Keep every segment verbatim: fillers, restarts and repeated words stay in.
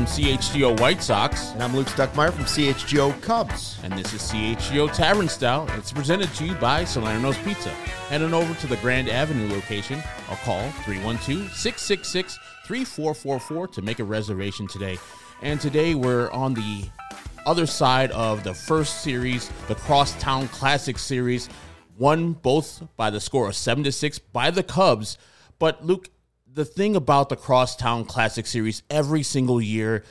from C H G O White Sox. And I'm Luke Stuckmeyer from C H G O Cubs. And this is C H G O Tavern Style. It's presented to you by Salerno's Pizza. Head on over to the Grand Avenue location or call three one two, six six six, three four four four to make a reservation today. And today we're on the other side of the first series, the Crosstown Classic Series, won both by the score of seven to six by the Cubs. But Luke, the thing about the Crosstown Classic Series, every single year,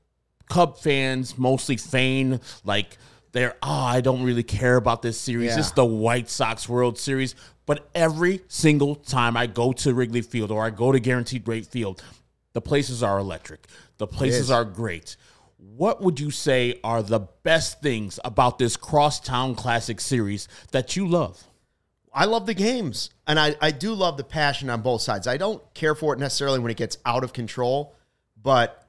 Cub fans mostly feign like they're, oh, I don't really care about this series. Yeah. It's the White Sox World Series. But every single time I go to Wrigley Field or I go to Guaranteed Rate Field, the places are electric. The places are great. What would you say are the best things about this Crosstown Classic Series that you love? I love the games, and I, I do love the passion on both sides. I don't care for it necessarily when it gets out of control, but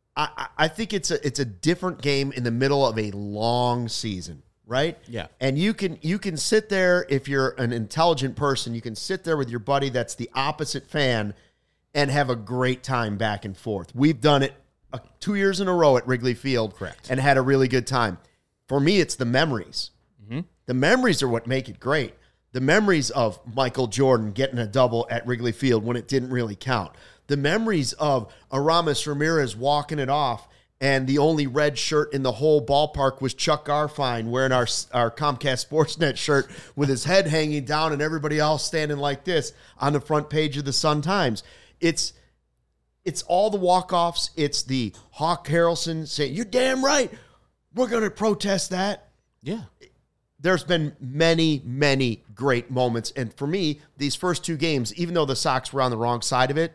I, I think it's a it's a different game in the middle of a long season, right? Yeah. And you can you can sit there, if you're an intelligent person, you can sit there with your buddy that's the opposite fan and have a great time back and forth. We've done it uh, two years in a row at Wrigley Field. Correct. And had a really good time. For me, it's the memories. Mm-hmm. The memories are what make it great. The memories of Michael Jordan getting a double at Wrigley Field when it didn't really count. The memories of Aramis Ramirez walking it off, and the only red shirt in the whole ballpark was Chuck Garfien wearing our, our Comcast Sportsnet shirt with his head hanging down and everybody else standing like this on the front page of the Sun-Times. It's it's all the walk-offs. It's the Hawk Harrelson saying, "You're damn right. We're going to protest that." Yeah. There's been many, many great moments. And for me, these first two games, even though the Sox were on the wrong side of it,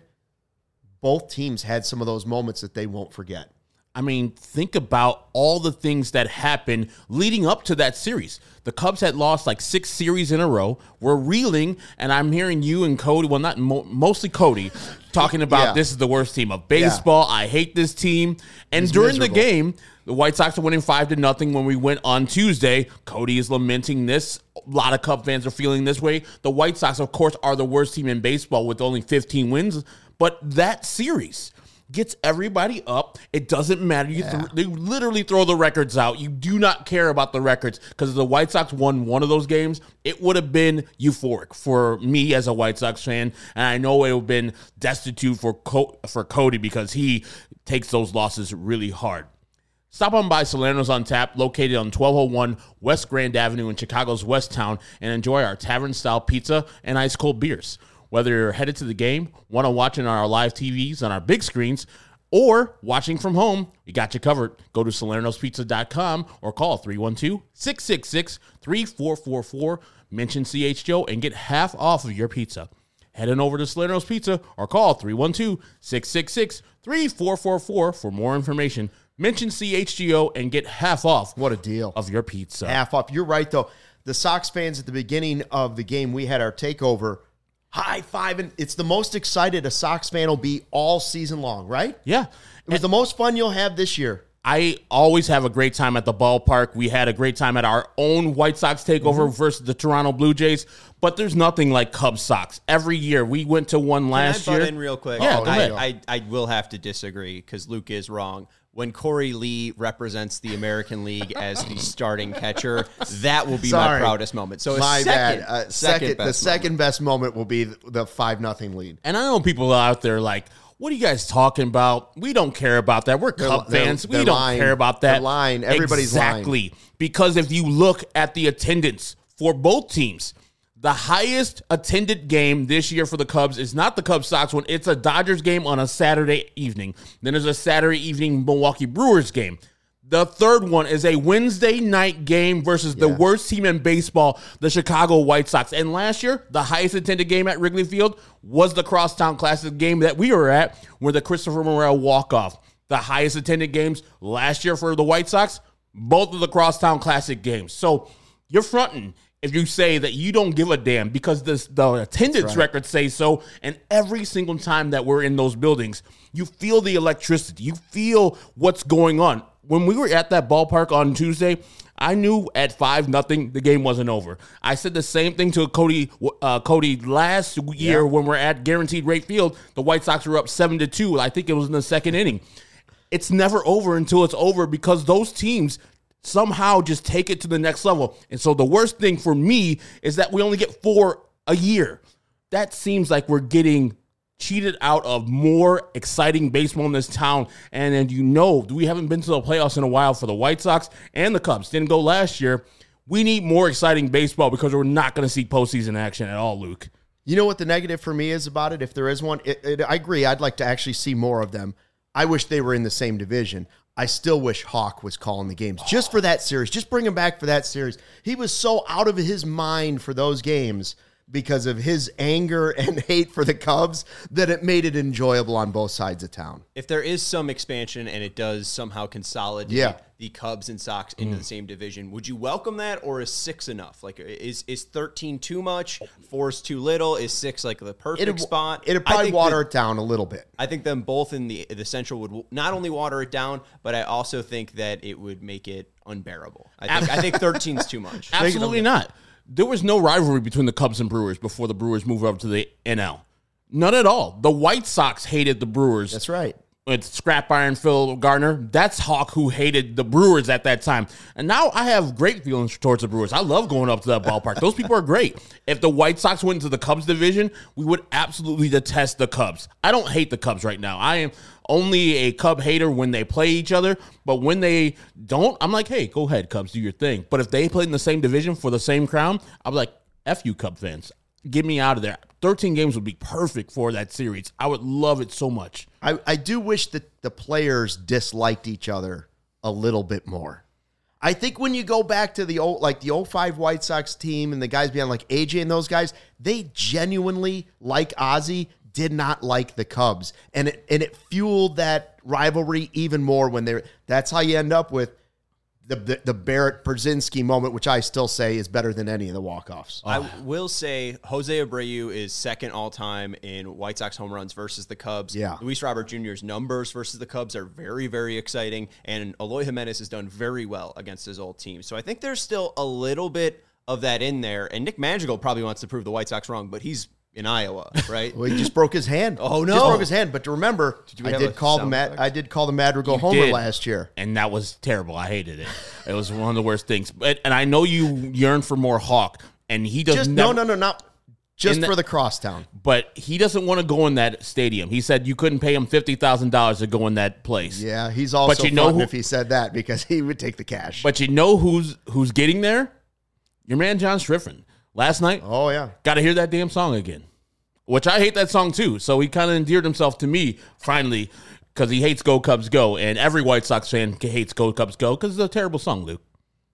both teams had some of those moments that they won't forget. I mean, think about all the things that happened leading up to that series. The Cubs had lost like six series in a row. We're reeling, and I'm hearing you and Cody, well, not mo- mostly Cody, talking about Yeah. this is the worst team of baseball. Yeah. I hate this team. And It's during miserable. the game, the White Sox are winning five to nothing when we went on Tuesday. Cody is lamenting this. A lot of Cub fans are feeling this way. The White Sox, of course, are the worst team in baseball with only fifteen wins. But that series gets everybody up. It doesn't matter. You Yeah. th- they literally throw the records out. You do not care about the records because if the White Sox won one of those games, it would have been euphoric for me as a White Sox fan, and I know it would have been destitute for Co- for Cody because he takes those losses really hard. Stop on by Salerno's on Tap, located on twelve oh one West Grand Avenue in Chicago's West Town, and enjoy our tavern-style pizza and ice-cold beers. Whether you're headed to the game, want to watch it on our live T Vs on our big screens, or watching from home, we got you covered. Go to salernos pizza dot com or call three one two, six six six, three four four four. Mention C H G O and get half off of your pizza. Head on over to Salerno's Pizza or call three one two, six six six, three four four four for more information. Mention C H G O and get half off. What a deal. Of your pizza. Half off. You're right, though. The Sox fans at the beginning of the game, we had our takeover, high-fiving. It's the most excited a Sox fan will be all season long, right? Yeah. It was the most fun you'll have this year. I always have a great time at the ballpark. We had a great time at our own White Sox takeover mm-hmm. versus the Toronto Blue Jays, but there's nothing like Cubs Sox. Every year, we went to one last Can I butt year. in real quick? Yeah, oh, go I, ahead. I, I will have to disagree because Luke is wrong. When Corey Lee represents the American League as the starting catcher, that will be Sorry. my proudest moment. So a My second, bad. Uh, second, second, best the second moment. best moment will be the five nothing lead. And I know people out there like, what are you guys talking about? We don't care about that. We're Cub they're- fans. they're We don't lying. care about that. They're lying. Everybody's exactly. lying. Because if you look at the attendance for both teams, the highest attended game this year for the Cubs is not the Cubs Sox one. It's a Dodgers game on a Saturday evening. Then there's a Saturday evening Milwaukee Brewers game. The third one is a Wednesday night game versus the Yeah. worst team in baseball, the Chicago White Sox. And last year, the highest attended game at Wrigley Field was the Crosstown Classic game that we were at, where the Christopher Morel walk-off. The highest attended games last year for the White Sox, both of the Crosstown Classic games. So you're fronting if you say that you don't give a damn because this, the attendance right. records say so, and every single time that we're in those buildings, you feel the electricity. You feel what's going on. When we were at that ballpark on Tuesday, I knew at five nothing the game wasn't over. I said the same thing to Cody uh, Cody last year yeah. when we're at Guaranteed Rate Field. The White Sox were up seven to two. I think it was in the second inning. it's never over until it's over because those teams somehow just take it to the next level. And so the worst thing for me is that we only get four a year. That seems like we're getting cheated out of more exciting baseball in this town. And then, you know, we haven't been to the playoffs in a while for the White Sox and the Cubs. Didn't go last year. We need more exciting baseball because we're not going to see postseason action at all, Luke. You know what the negative for me is about it? If there is one, it, it, I agree. I'd like to actually see more of them. I wish they were in the same division. I still wish Hawk was calling the games just for that series. Just bring him back for that series. He was so out of his mind for those games because of his anger and hate for the Cubs that it made it enjoyable on both sides of town. If there is some expansion and it does somehow consolidate Yeah. the Cubs and Sox into mm. the same division, would you welcome that, or is six enough? Like, is is thirteen too much? Four is too little? Is six like the perfect It'd, spot? It'd probably water that, it down a little bit. I think them both in the the Central would not only water it down, but I also think that it would make it unbearable. I think I think thirteen is too much. Absolutely not. There was no rivalry between the Cubs and Brewers before the Brewers moved over to the N L. None at all. The White Sox hated the Brewers. That's right. With Scrap Iron Phil Gardner. That's Hawk who hated the Brewers at that time. And now I have great feelings towards the Brewers. I love going up to that ballpark. Those people are great. If the White Sox went into the Cubs division, we would absolutely detest the Cubs. I don't hate the Cubs right now. I am only a Cub hater when they play each other. But when they don't, I'm like, hey, go ahead, Cubs, do your thing. But if they played in the same division for the same crown, I'm like, F you, Cub fans. Get me out of there. thirteen games would be perfect for that series. I would love it so much. I, I do wish that the players disliked each other a little bit more. I think when you go back to the old, like the oh five White Sox team and the guys behind like A J and those guys, they genuinely, like Ozzie, did not like the Cubs. And it and it fueled that rivalry even more when they're that's how you end up with The, the the Barrett Brzezinski moment, which I still say is better than any of the walk-offs. I will say Jose Abreu is second all-time in White Sox home runs versus the Cubs. Yeah. Luis Robert Junior's numbers versus the Cubs are very, very exciting, and Eloy Jimenez has done very well against his old team. So I think there's still a little bit of that in there, and Nick Madrigal probably wants to prove the White Sox wrong, but he's in Iowa, right? Well, he just broke his hand. Oh, no. Just broke his hand. But remember, did I did call the Mad- I did call the Madrigal You homer did. last year. And that was terrible. I hated it. It was one of the worst things. But and I know you yearn for more Hawk, and he does Just never, no, no, no, not just the- for the crosstown. But he doesn't want to go in that stadium. He said you couldn't pay him fifty thousand dollars to go in that place. Yeah, he's also But you know fronting who- if he said that because he would take the cash. But you know who's who's getting there? Your man John Striffen. Last night, oh yeah, got to hear that damn song again. Which I hate that song too. So he kind of endeared himself to me finally because he hates Go Cubs Go. And every White Sox fan hates Go Cubs Go because it's a terrible song, Luke.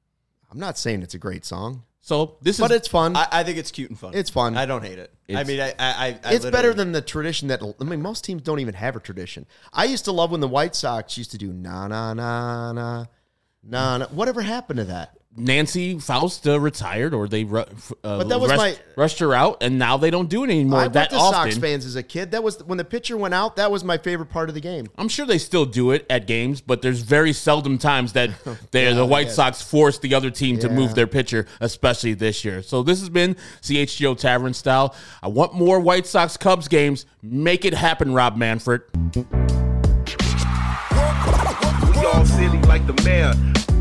I'm not saying it's a great song, So this but is it's fun. I, I think it's cute and fun. It's fun. I don't hate it. I It's- mean, I, I, I it's literally- better than the tradition that I mean. Most teams don't even have a tradition. I used to love when the White Sox used to do na na na na na na. Whatever happened to that? Nancy Faust uh, retired, or they ru- uh, But that was rushed, my- rushed her out, and now they don't do it anymore I went that to often. Sox fans as a kid. That was when the pitcher went out. That was my favorite part of the game. I'm sure they still do it at games, but there's very seldom times that they Yeah, the White yeah. Sox force the other team to Yeah. move their pitcher, especially this year. So this has been C H G O Tavern Style. I want more White Sox Cubs games. Make it happen, Rob Manfred. We all silly like the mayor.